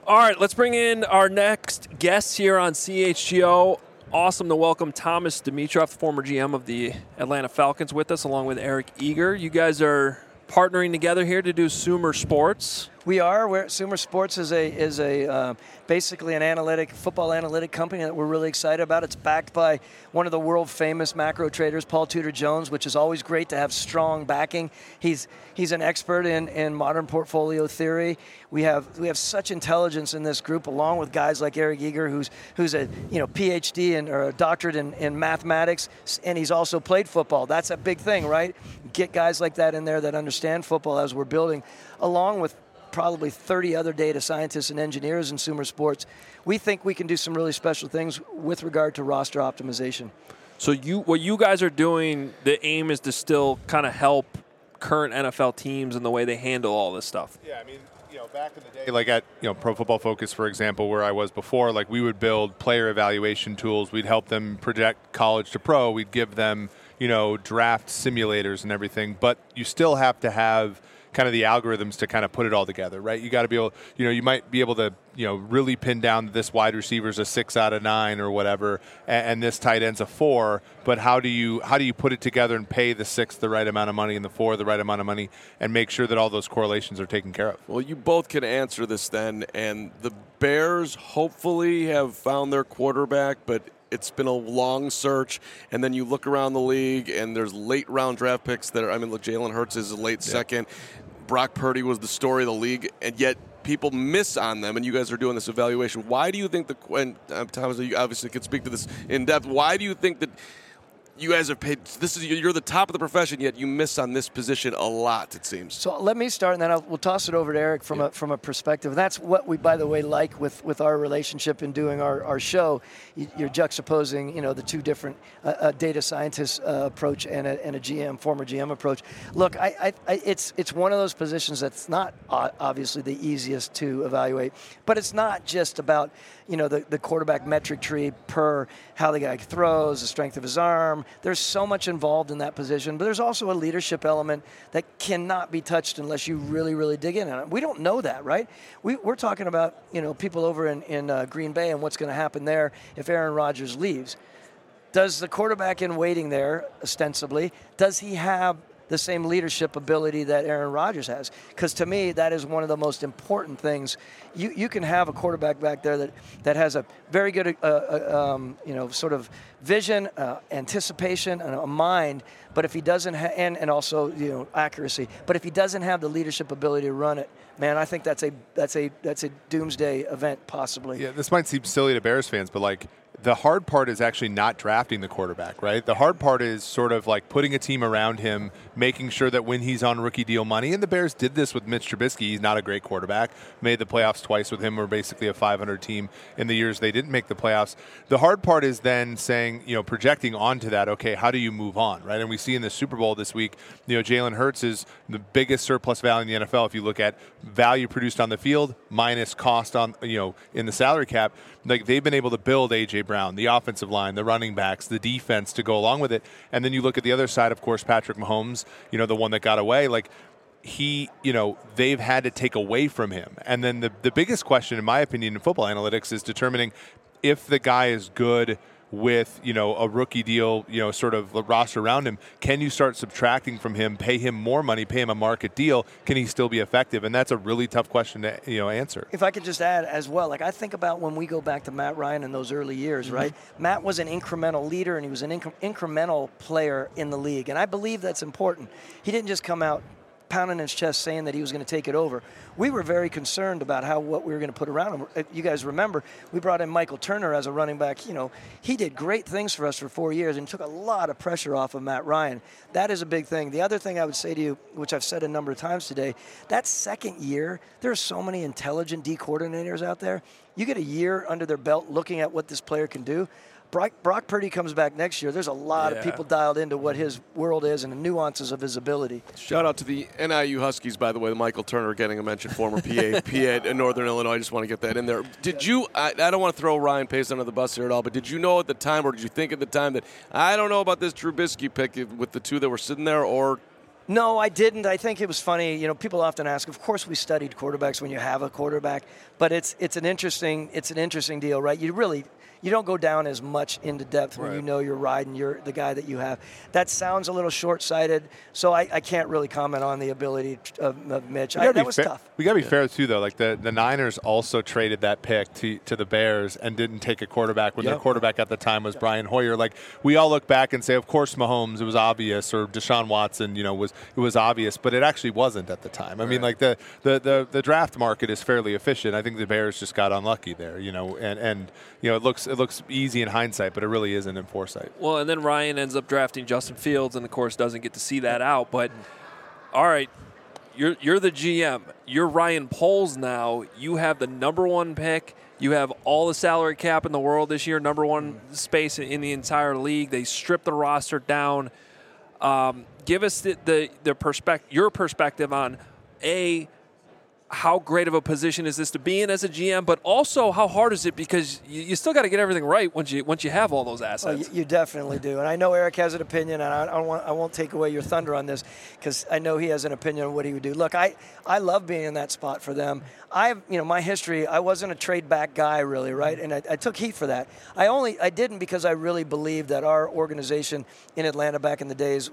All right, let's bring in our next guest here on CHGO. Awesome to welcome Thomas Dimitroff, former GM of the Atlanta Falcons, with us, along with Eric Eager. You guys are partnering together here to do Sumer Sports. We are. Sumer Sports is basically an football analytic company that we're really excited about. It's backed by one of the world famous macro traders, Paul Tudor Jones, which is always great to have strong backing. He's an expert in modern portfolio theory. We have such intelligence in this group, along with guys like Eric Eager, who's a PhD or a doctorate in mathematics, and he's also played football. That's a big thing, right? Get guys like that in there that understand football as we're building, along with probably 30 other data scientists and engineers in Sumer Sports. We think we can do some really special things with regard to roster optimization. So what you guys are doing, the aim is to still kind of help current NFL teams in the way they handle all this stuff. Yeah, I mean, back in the day, like at Pro Football Focus, for example, where I was before, like we would build player evaluation tools. We'd help them project college to pro. We'd give them, draft simulators and everything. But you still have to have kind of the algorithms to kind of put it all together, right? You got to be able, you might be able to, really pin down that this wide receiver's a 6 out of 9 or whatever, and this tight end's a 4. But how do you put it together and pay the 6 the right amount of money and the 4 the right amount of money, and make sure that all those correlations are taken care of? Well, you both can answer this then, and the Bears hopefully have found their quarterback, but it's been a long search, and then you look around the league, and there's late-round draft picks that are, look, Jalen Hurts is a late second. Brock Purdy was the story of the league, and yet people miss on them, and you guys are doing this evaluation. Why do you think Thomas, you obviously could speak to this in depth. Why do you think that you guys have paid? You're the top of the profession, yet you miss on this position a lot, it seems. So let me start, and then we'll toss it over to Eric from a perspective. And that's what we, by the way, like with our relationship in doing our show. You're juxtaposing, the two different data scientist approach and a former GM approach. Look, it's one of those positions that's not obviously the easiest to evaluate, but it's not just about the quarterback metric tree per how the guy throws, the strength of his arm. There's so much involved in that position, but there's also a leadership element that cannot be touched unless you really, really dig in on it. We don't know that, right? We're talking about, people over in Green Bay and what's going to happen there if Aaron Rodgers leaves. Does the quarterback in waiting there, ostensibly, does he have the same leadership ability that Aaron Rodgers has? Because to me, that is one of the most important things. You can have a quarterback back there that has a very good, sort of vision, anticipation, and a mind. But if he doesn't, and also accuracy. But if he doesn't have the leadership ability to run it, man, I think that's a doomsday event possibly. Yeah, this might seem silly to Bears fans, but like, the hard part is actually not drafting the quarterback, right? The hard part is sort of like putting a team around him, making sure that when he's on rookie deal money, and the Bears did this with Mitch Trubisky. He's not a great quarterback. Made the playoffs twice with him. We're basically a 500 team in the years they didn't make the playoffs. The hard part is then saying, projecting onto that, okay, how do you move on, right? And we see in the Super Bowl this week, Jalen Hurts is the biggest surplus value in the NFL if you look at value produced on the field minus cost on, in the salary cap. Like, they've been able to build A.J. Brown, the offensive line, the running backs, the defense to go along with it. And then you look at the other side, of course, Patrick Mahomes, the one that got away. Like, they've had to take away from him. And then the biggest question, in my opinion, in football analytics is determining if the guy is good with, a rookie deal, sort of roster around him. Can you start subtracting from him, pay him more money, pay him a market deal? Can he still be effective? And that's a really tough question to, answer. If I could just add as well, like I think about when we go back to Matt Ryan in those early years, right? Matt was an incremental leader, and he was an incremental player in the league. And I believe that's important. He didn't just come out pounding his chest saying that he was going to take it over. We were very concerned about what we were going to put around him. You guys remember, we brought in Michael Turner as a running back. He did great things for us for 4 years and took a lot of pressure off of Matt Ryan. That is a big thing. The other thing I would say to you, which I've said a number of times today, that second year, there are so many intelligent D coordinators out there. You get a year under their belt looking at what this player can do. Brock Purdy comes back next year. There's a lot of people dialed into what his world is and the nuances of his ability. Shout out to the NIU Huskies, by the way. Michael Turner getting a mention, former PA in Northern Illinois. I just want to get that in there. Did you, I don't want to throw Ryan Pace under the bus here at all, but did you know at the time, or did you think at the time that, I don't know about this Trubisky pick with the two that were sitting there, or No, I didn't. I think it was funny. You know, people often ask. Of course, we studied quarterbacks when you have a quarterback, but it's an interesting deal, right? You don't go down as much into depth when you know you're riding the guy that you have. That sounds a little short-sighted, so I can't really comment on the ability of Mitch. That was tough. We got to be fair, too, though. Like, the Niners also traded that pick to the Bears and didn't take a quarterback when their quarterback at the time was Brian Hoyer. Like, we all look back and say, of course, Mahomes, it was obvious, or Deshaun Watson, you know, it was obvious, but it actually wasn't at the time. I mean, like, the draft market is fairly efficient. I think the Bears just got unlucky there, you know, and you know, it looks easy in hindsight, but it really isn't in foresight. Well, and then Ryan ends up drafting Justin Fields, and of course doesn't get to see that out. But all right, you're the GM. You're Ryan Poles now. You have the number 1 pick. You have all the salary cap in the world this year, number 1 space in the entire league. They stripped the roster down. Give us your perspective on how great of a position is this to be in as a GM, but also how hard is it, because you still got to get everything right once you have all those assets. You definitely do, and I know Eric has an opinion, and I won't take away your thunder on this, because I know he has an opinion on what he would do. Look, I love being in that spot for them. My history, I wasn't a trade back guy really, right? And I took heat for that. I didn't because I really believed that our organization in Atlanta back in the days,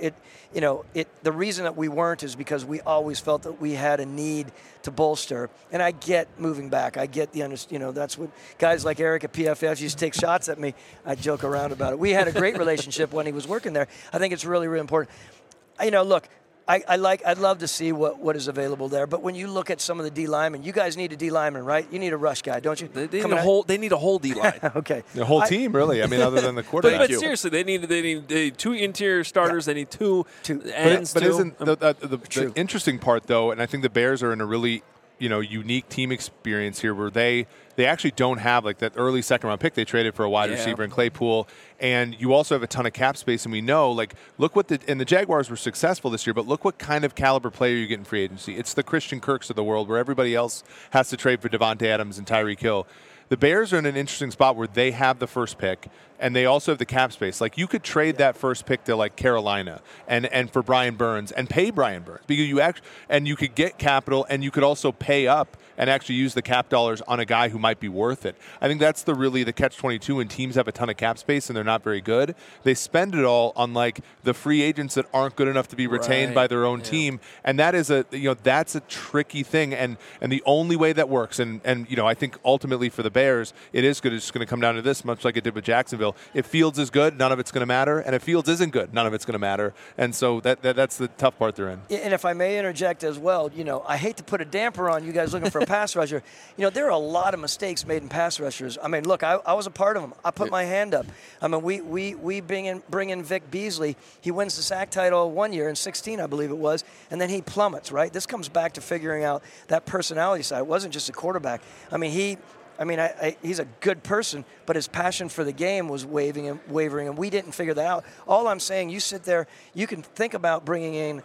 the reason that we weren't is because we always felt that we had a need to bolster. And I get moving back. I get that's what guys like Eric at PFF used to take shots at me. I joke around about it. We had a great relationship when he was working there. I think it's really, really important. Look, I'd love to see what is available there. But when you look at some of the D linemen, you guys need a D lineman, right? You need a rush guy, don't you? They need a whole D line. Okay. The whole team, really. I mean, other than the quarterback. But seriously, they need 2 interior starters. Yeah. They need 2 ends. But isn't the interesting part, though, and I think the Bears are in a really unique team experience here where they actually don't have like that early second-round pick they traded for a wide receiver in Claypool, and you also have a ton of cap space, and we know, like, look what the Jaguars were successful this year, but look what kind of caliber player you get in free agency. It's the Christian Kirks of the world where everybody else has to trade for Devontae Adams and Tyreek Hill. The Bears are in an interesting spot where they have the first pick, and they also have the cap space. Like, you could trade that first pick to, like, Carolina and for Brian Burns and pay Brian Burns, because you could get capital, and you could also pay up and actually use the cap dollars on a guy who might be worth it. I think that's the catch-22 when teams have a ton of cap space and they're not very good. They spend it all on, like, the free agents that aren't good enough to be retained by their own team, and that is that's a tricky thing, and the only way that works, and I think ultimately for the Bears, it is good. It's just going to come down to this, much like it did with Jacksonville. If Fields is good, none of it's going to matter, and if Fields isn't good, none of it's going to matter, and so that's the tough part they're in. And if I may interject as well, I hate to put a damper on you guys looking for a pass rusher. There are a lot of mistakes made in pass rushers. I mean, look, I was a part of them. I put my hand up. I mean, we bring in Vic Beasley. He wins the sack title one year in 2016, I believe it was, and then he plummets, right? This comes back to figuring out that personality side. It wasn't just a quarterback. I mean, he's a good person, but his passion for the game was wavering, and we didn't figure that out. All I'm saying, you sit there, you can think about bringing in,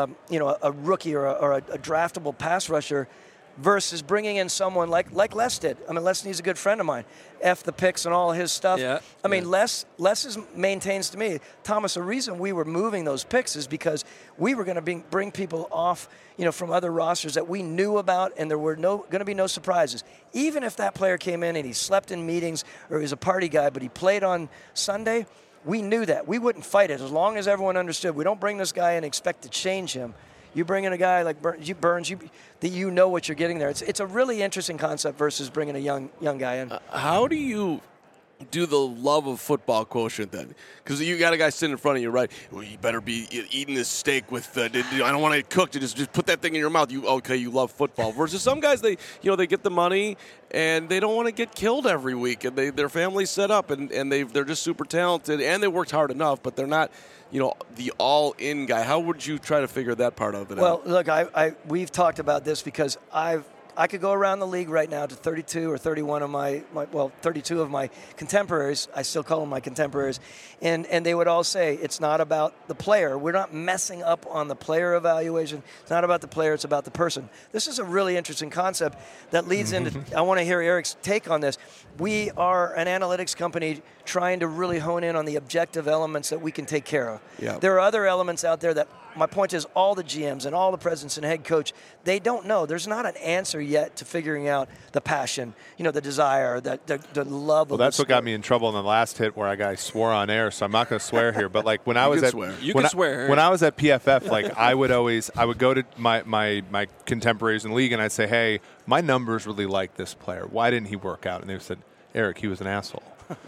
a rookie or a draftable pass rusher versus bringing in someone like Les did. I mean, Les Snead's a good friend of mine. F the picks and all his stuff. Yeah, I mean, Les maintains to me, Thomas, the reason we were moving those picks is because we were going to bring people off, from other rosters that we knew about, and there were going to be no surprises. Even if that player came in and he slept in meetings or he was a party guy, but he played on Sunday, we knew that. We wouldn't fight it as long as everyone understood. We don't bring this guy and expect to change him. You bring in a guy like Burns, that you know what you're getting there. It's a really interesting concept versus bringing a young guy in. How do you do the love of football quotient then? Because you got a guy sitting in front of you, right? Well, you better be eating this steak with. I don't want it cooked. Just put that thing in your mouth. You love football. Versus some guys, they get the money and they don't want to get killed every week, and their family's set up, and they're just super talented, and they worked hard enough, but they're not. The all-in guy. How would you try to figure that part of it out? Well, look, we've talked about this because I could go around the league right now to 32 or 31 of 32 of my contemporaries. I still call them my contemporaries. And they would all say, it's not about the player. We're not messing up on the player evaluation. It's not about the player. It's about the person. This is a really interesting concept that leads into, I want to hear Eric's take on this. We are an analytics company trying to really hone in on the objective elements that we can take care of. Yeah. There are other elements out there that my point is all the GMs and all the presidents and head coach, they don't know. There's not an answer yet to figuring out the passion, the desire, the love Well, of that's the what got sport. me in trouble in the last hit where I swore on air, so I'm not going to swear here. But like when I was at when I was at PFF, like I would go to my contemporaries in the league and I'd say, hey, my numbers really like this player. Why didn't he work out? And they said, Eric, he was an asshole.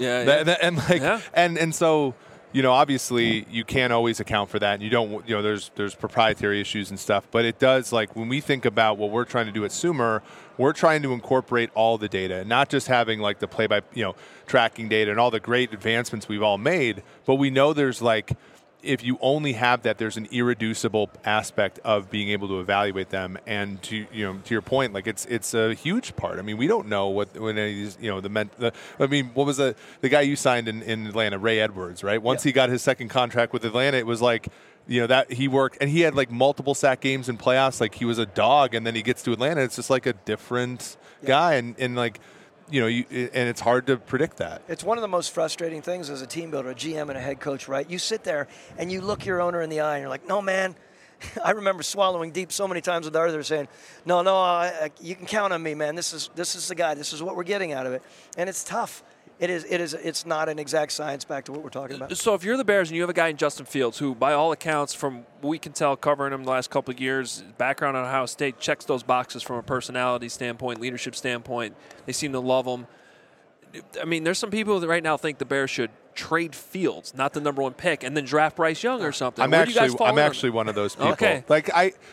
And so, obviously you can't always account for that. And you don't, there's proprietary issues and stuff. But it does, like when we think about what we're trying to do at Sumer, we're trying to incorporate all the data, not just having like the play by, tracking data and all the great advancements we've all made. But we know there's like, if you only have that, there's an irreducible aspect of being able to evaluate them. And to your point, like it's a huge part. I mean, we don't know what any of these, what was the guy you signed in Atlanta, Ray Edwards, right? Once he got his second contract with Atlanta, it was like, that he worked and he had like multiple sack games in playoffs. Like he was a dog, and then he gets to Atlanta. It's just like a different guy, and like. And it's hard to predict that. It's one of the most frustrating things as a team builder, a GM and a head coach, right? You sit there and you look your owner in the eye and you're like, no, man. I remember swallowing deep so many times with Arthur saying, no, you can count on me, man. This is the guy. This is what we're getting out of it. And it's tough. It's not an exact science, back to what we're talking about. So if you're the Bears and you have a guy in Justin Fields who, by all accounts, from what we can tell covering him the last couple of years, background on Ohio State, checks those boxes from a personality standpoint, leadership standpoint. They seem to love him. I mean, there's some people that right now think the Bears should trade Fields, not the number one pick, and then draft Bryce Young or something. I'm actually one of those people. Okay. Like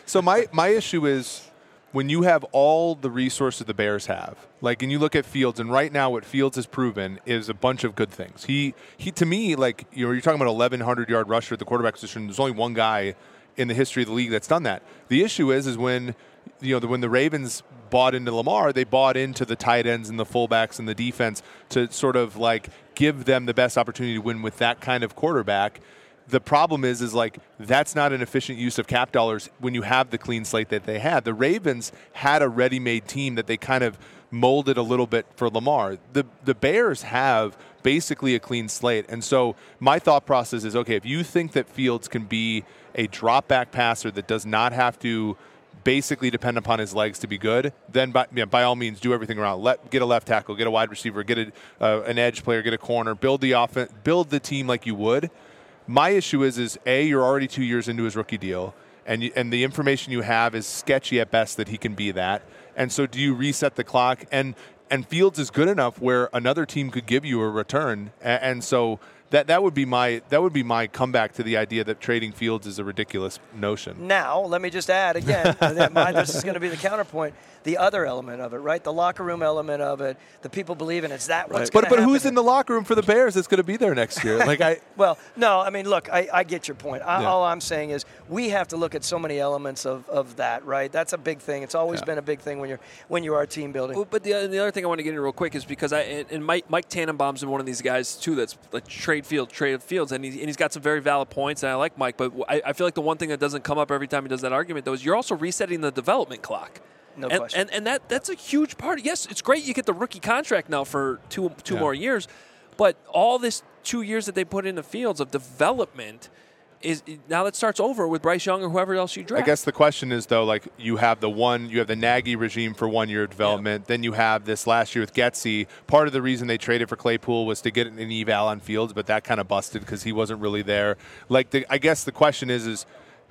my issue is when you have all the resources the Bears have, like, and you look at Fields, and right now what Fields has proven is a bunch of good things. He to me, like, you're talking about 1,100-yard rusher at the quarterback position. There's only one guy in the history of the league that's done that. The issue is when when the Ravens bought into Lamar, they bought into the tight ends and the fullbacks and the defense to sort of like give them the best opportunity to win with that kind of quarterback. The problem is like that's not an efficient use of cap dollars when you have the clean slate that they had. The Ravens had a ready-made team that they kind of molded a little bit for Lamar. The Bears have basically a clean slate. And so my thought process is, okay, if you think that Fields can be a drop-back passer that does not have to basically depend upon his legs to be good, then by all means do everything around. Get a left tackle, get a wide receiver, get an edge player, get a corner, build the offense, build the team like you would. My issue is you're already 2 years into his rookie deal, and the information you have is sketchy at best that he can be that. And so do you reset the clock? And Fields is good enough where another team could give you a return. And so that would be my comeback to the idea that trading Fields is a ridiculous notion. Now, let me just add again, this is going to be the counterpoint. The other element of it, right? The locker room element of it, the people believing it's that what's going to happen. But who's in the locker room for the Bears that's going to be there next year? Well, no, I mean, look, I get your point. All I'm saying is we have to look at so many elements of that, right? That's a big thing. It's always been a big thing when you are team building. Well, but the other thing I want to get into real quick is because Mike Tannenbaum's one of these guys too that's like trade Fields, and he's got some very valid points, and I like Mike. But I feel like the one thing that doesn't come up every time he does that argument though is you're also resetting the development clock. No question. And that's a huge part. Yes, it's great you get the rookie contract now for two more years, but all this 2 years that they put in the Fields of development is now that starts over with Bryce Young or whoever else you draft. I guess the question is though, like you have the Nagy regime for 1 year of development. Then you have this last year with Getsy. Part of the reason they traded for Claypool was to get an eval on Fields, but that kind of busted because he wasn't really there. I guess the question is.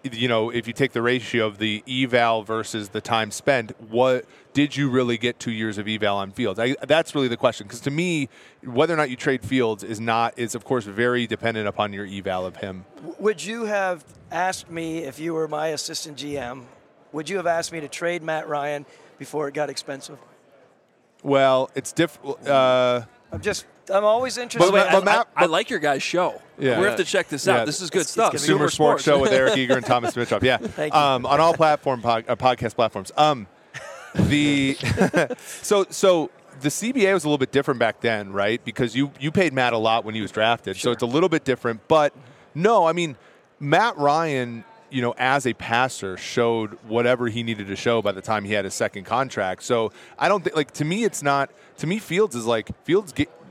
If you take the ratio of the eval versus the time spent, what did you really get 2 years of eval on Fields? That's really the question. Because to me, whether or not you trade Fields is of course very dependent upon your eval of him. Would you have asked me if you were my assistant GM? Would you have asked me to trade Matt Ryan before it got expensive? Well, it's different. I'm always interested. I like your guys' show. Yeah. We have to check this out. This is good stuff. Sumer Sports Show with Eric Eager and Thomas Dimitroff. Yeah. Thank you. On all podcast platforms. So the CBA was a little bit different back then, right? Because you paid Matt a lot when he was drafted. Sure. So it's a little bit different. But no, I mean, Matt Ryan, as a passer, showed whatever he needed to show by the time he had his second contract. So I don't think, to me, it's not. To me, Fields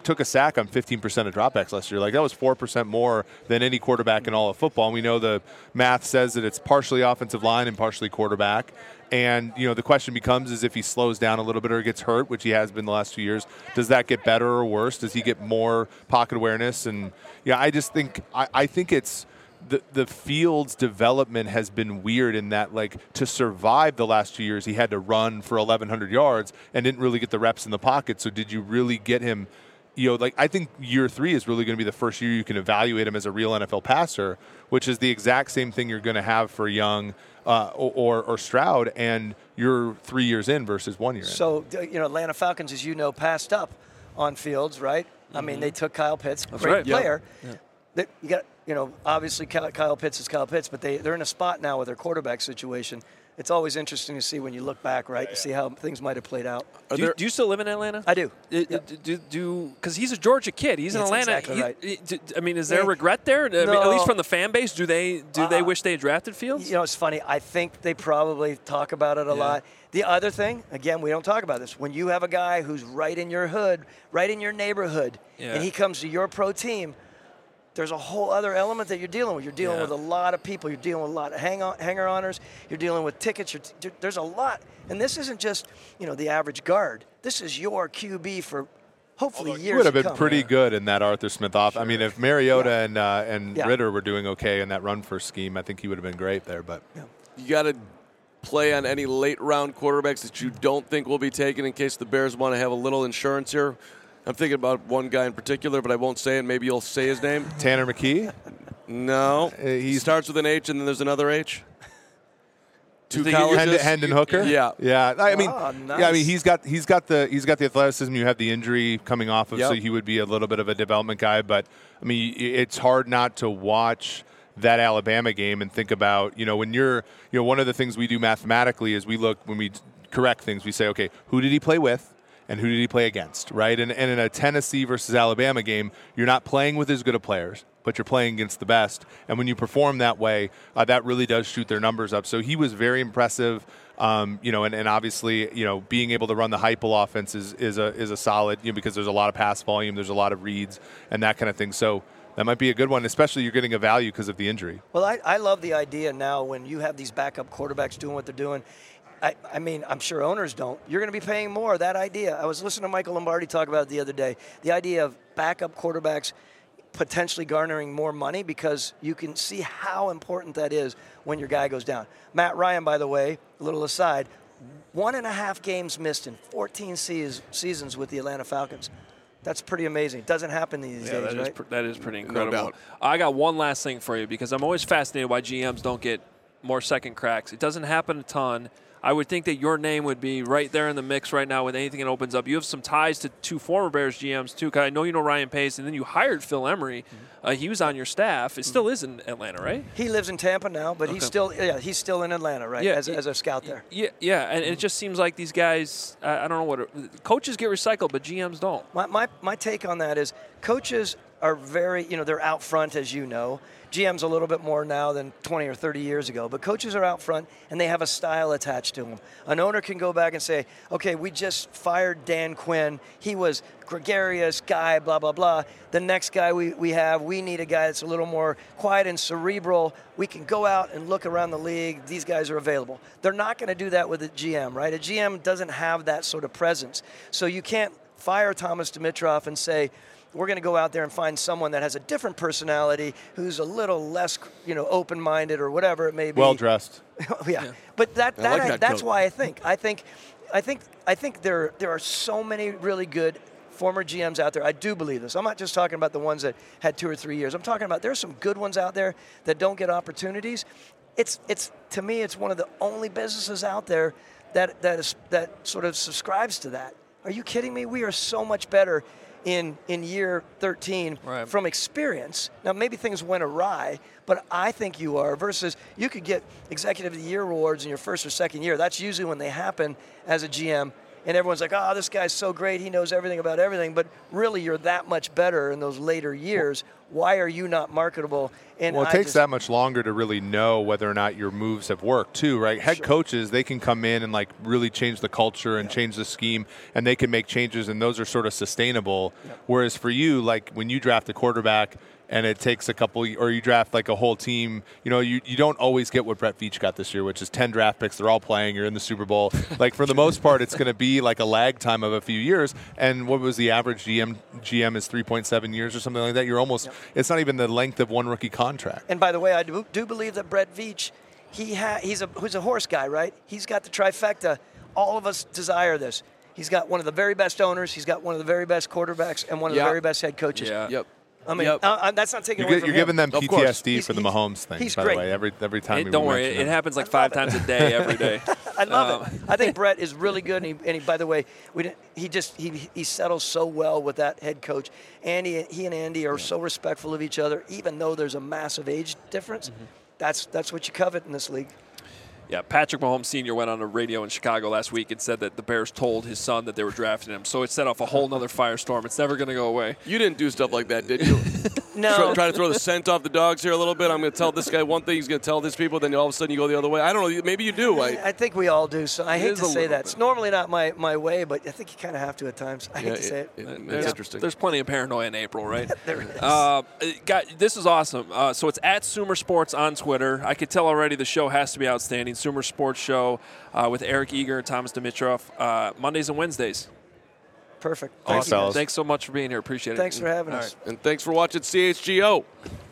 took a sack on 15% of dropbacks last year. Like, that was 4% more than any quarterback in all of football. And we know the math says that it's partially offensive line and partially quarterback. And, the question becomes is if he slows down a little bit or gets hurt, which he has been the last 2 years, does that get better or worse? Does he get more pocket awareness? And, I just think I think it's the Fields' development has been weird in that, like, to survive the last 2 years, he had to run for 1,100 yards and didn't really get the reps in the pocket. So did you really get him? I think year 3 is really going to be the first year you can evaluate him as a real NFL passer, which is the exact same thing you're going to have for Young or Stroud, and you're 3 years in versus 1 year in. So, Atlanta Falcons, as you know, passed up on Fields, right? I mean, they took Kyle Pitts, great player. Yeah. You got, obviously Kyle Pitts is Kyle Pitts, but they're in a spot now with their quarterback situation. It's always interesting to see when you look back, right, to see how things might have played out. Do you still live in Atlanta? I do. Because he's a Georgia kid. He's in Atlanta. Exactly right. I mean, is there regret there? No. I mean, at least from the fan base, do they wish they had drafted Fields? It's funny. I think they probably talk about it a lot. The other thing, again, we don't talk about this. When you have a guy who's right in your hood, right in your neighborhood, and he comes to your pro team, there's a whole other element that you're dealing with. You're dealing with a lot of people. You're dealing with a lot of hanger-oners. You're dealing with tickets. There's a lot. And this isn't just, the average guard. This is your QB for hopefully years to come. He would have been pretty good in that Arthur Smith offense. I mean, if Mariota and Ritter were doing okay in that run-first scheme, I think he would have been great there. But you got to play on any late-round quarterbacks that you don't think will be taken in case the Bears want to have a little insurance here. I'm thinking about one guy in particular, but I won't say it. Maybe you'll say his name. Tanner McKee? No. He starts with an H, and then there's another H. Two colleges. Hendon Hooker? Yeah. Yeah. I mean, nice. I mean, he's got the athleticism. You have the injury coming off of, so he would be a little bit of a development guy. But I mean, it's hard not to watch that Alabama game and think about, when you're, one of the things we do mathematically is we look, when we correct things, we say, okay, who did he play with? And who did he play against, right? And in a Tennessee versus Alabama game, you're not playing with as good of players, but you're playing against the best. And when you perform that way, that really does shoot their numbers up. So he was very impressive, and obviously, being able to run the Heupel offense is a solid, because there's a lot of pass volume, there's a lot of reads, and that kind of thing. So that might be a good one, especially you're getting a value because of the injury. Well, I love the idea now when you have these backup quarterbacks doing what they're doing. I mean, I'm sure owners don't. You're going to be paying more. That idea. I was listening to Michael Lombardi talk about it the other day. The idea of backup quarterbacks potentially garnering more money because you can see how important that is when your guy goes down. Matt Ryan, by the way, a little aside, 1.5 games missed in 14 seasons with the Atlanta Falcons. That's pretty amazing. It doesn't happen these days, right? That is pretty incredible. No doubt. I got one last thing for you because I'm always fascinated why GMs don't get more second cracks. It doesn't happen a ton. I would think that your name would be right there in the mix right now with anything that opens up. You have some ties to 2 former Bears GMs, too. I know you know Ryan Pace, and then you hired Phil Emery. He was on your staff. It still is in Atlanta, right? He lives in Tampa now, but he's still in Atlanta, right, as a scout there. Yeah, and it just seems like these guys, I don't know coaches get recycled, but GMs don't. My take on that is coaches are very, they're out front, as you know. GM's a little bit more now than 20 or 30 years ago, but coaches are out front and they have a style attached to them. An owner can go back and say, okay, we just fired Dan Quinn. He was gregarious guy, blah, blah, blah. The next guy we need a guy that's a little more quiet and cerebral. We can go out and look around the league. These guys are available. They're not going to do that with a GM, right? A GM doesn't have that sort of presence. So you can't fire Thomas Dimitroff and say, we're going to go out there and find someone that has a different personality, who's a little less, open-minded or whatever it may be. Well dressed. yeah, but that's coat. why I think there are so many really good former GMs out there. I do believe this. I'm not just talking about the ones that had 2 or 3 years. I'm talking about there's some good ones out there that don't get opportunities. It's to me, it's one of the only businesses out there that sort of subscribes to that. Are you kidding me? We are so much better in year 13 from experience. Now, maybe things went awry, but I think you are, versus you could get Executive of the Year awards in your first or second year. That's usually when they happen as a GM and everyone's like, oh, this guy's so great, he knows everything about everything, but really you're that much better in those later years. Why are you not marketable? And well, it takes that much longer to really know whether or not your moves have worked too, right? Head coaches, they can come in and like really change the culture and change the scheme, and they can make changes, and those are sort of sustainable. Whereas for you, like when you draft a quarterback and it takes a couple, or you draft like a whole team, you don't always get what Brett Veach got this year, which is 10 draft picks. They're all playing. You're in the Super Bowl. Like for the most part, it's going to be like a lag time of a few years. And what was the average GM is 3.7 years or something like that. You're almost, it's not even the length of one rookie contract. And by the way, I do believe that Brett Veach, he's a horse guy, right? He's got the trifecta. All of us desire this. He's got one of the very best owners. He's got one of the very best quarterbacks and one of the very best head coaches. Yeah. Yep. I mean, that's not taking away from You're him. giving them PTSD for the Mahomes thing, he's by great. the way. Every time Don't worry, it happens like 5 times a day, every day. I love it. I think Brett is really good, and he by the way, he settles so well with that head coach. He and Andy are so respectful of each other, even though there's a massive age difference. That's what you covet in this league. Yeah, Patrick Mahomes Sr. went on the radio in Chicago last week and said that the Bears told his son that they were drafting him. So it set off a whole nother firestorm. It's never going to go away. You didn't do stuff like that, did you? No. Try to throw the scent off the dogs here a little bit. I'm going to tell this guy one thing, he's going to tell this people, then all of a sudden you go the other way. I don't know. Maybe you do. I think we all do. So I hate is to a say little that. bit. It's normally not my way, but I think you kind of have to at times. I hate to say it. It's interesting. There's plenty of paranoia in April, right? There it is. This is awesome. So it's at Sumer Sports on Twitter. I could tell already the show has to be outstanding. Sumer Sports Show with Eric Eager and Thomas Dimitroff, Mondays and Wednesdays. Perfect. Thanks, fellas. Thanks so much for being here. Appreciate it. Thanks for having us. And thanks for watching CHGO.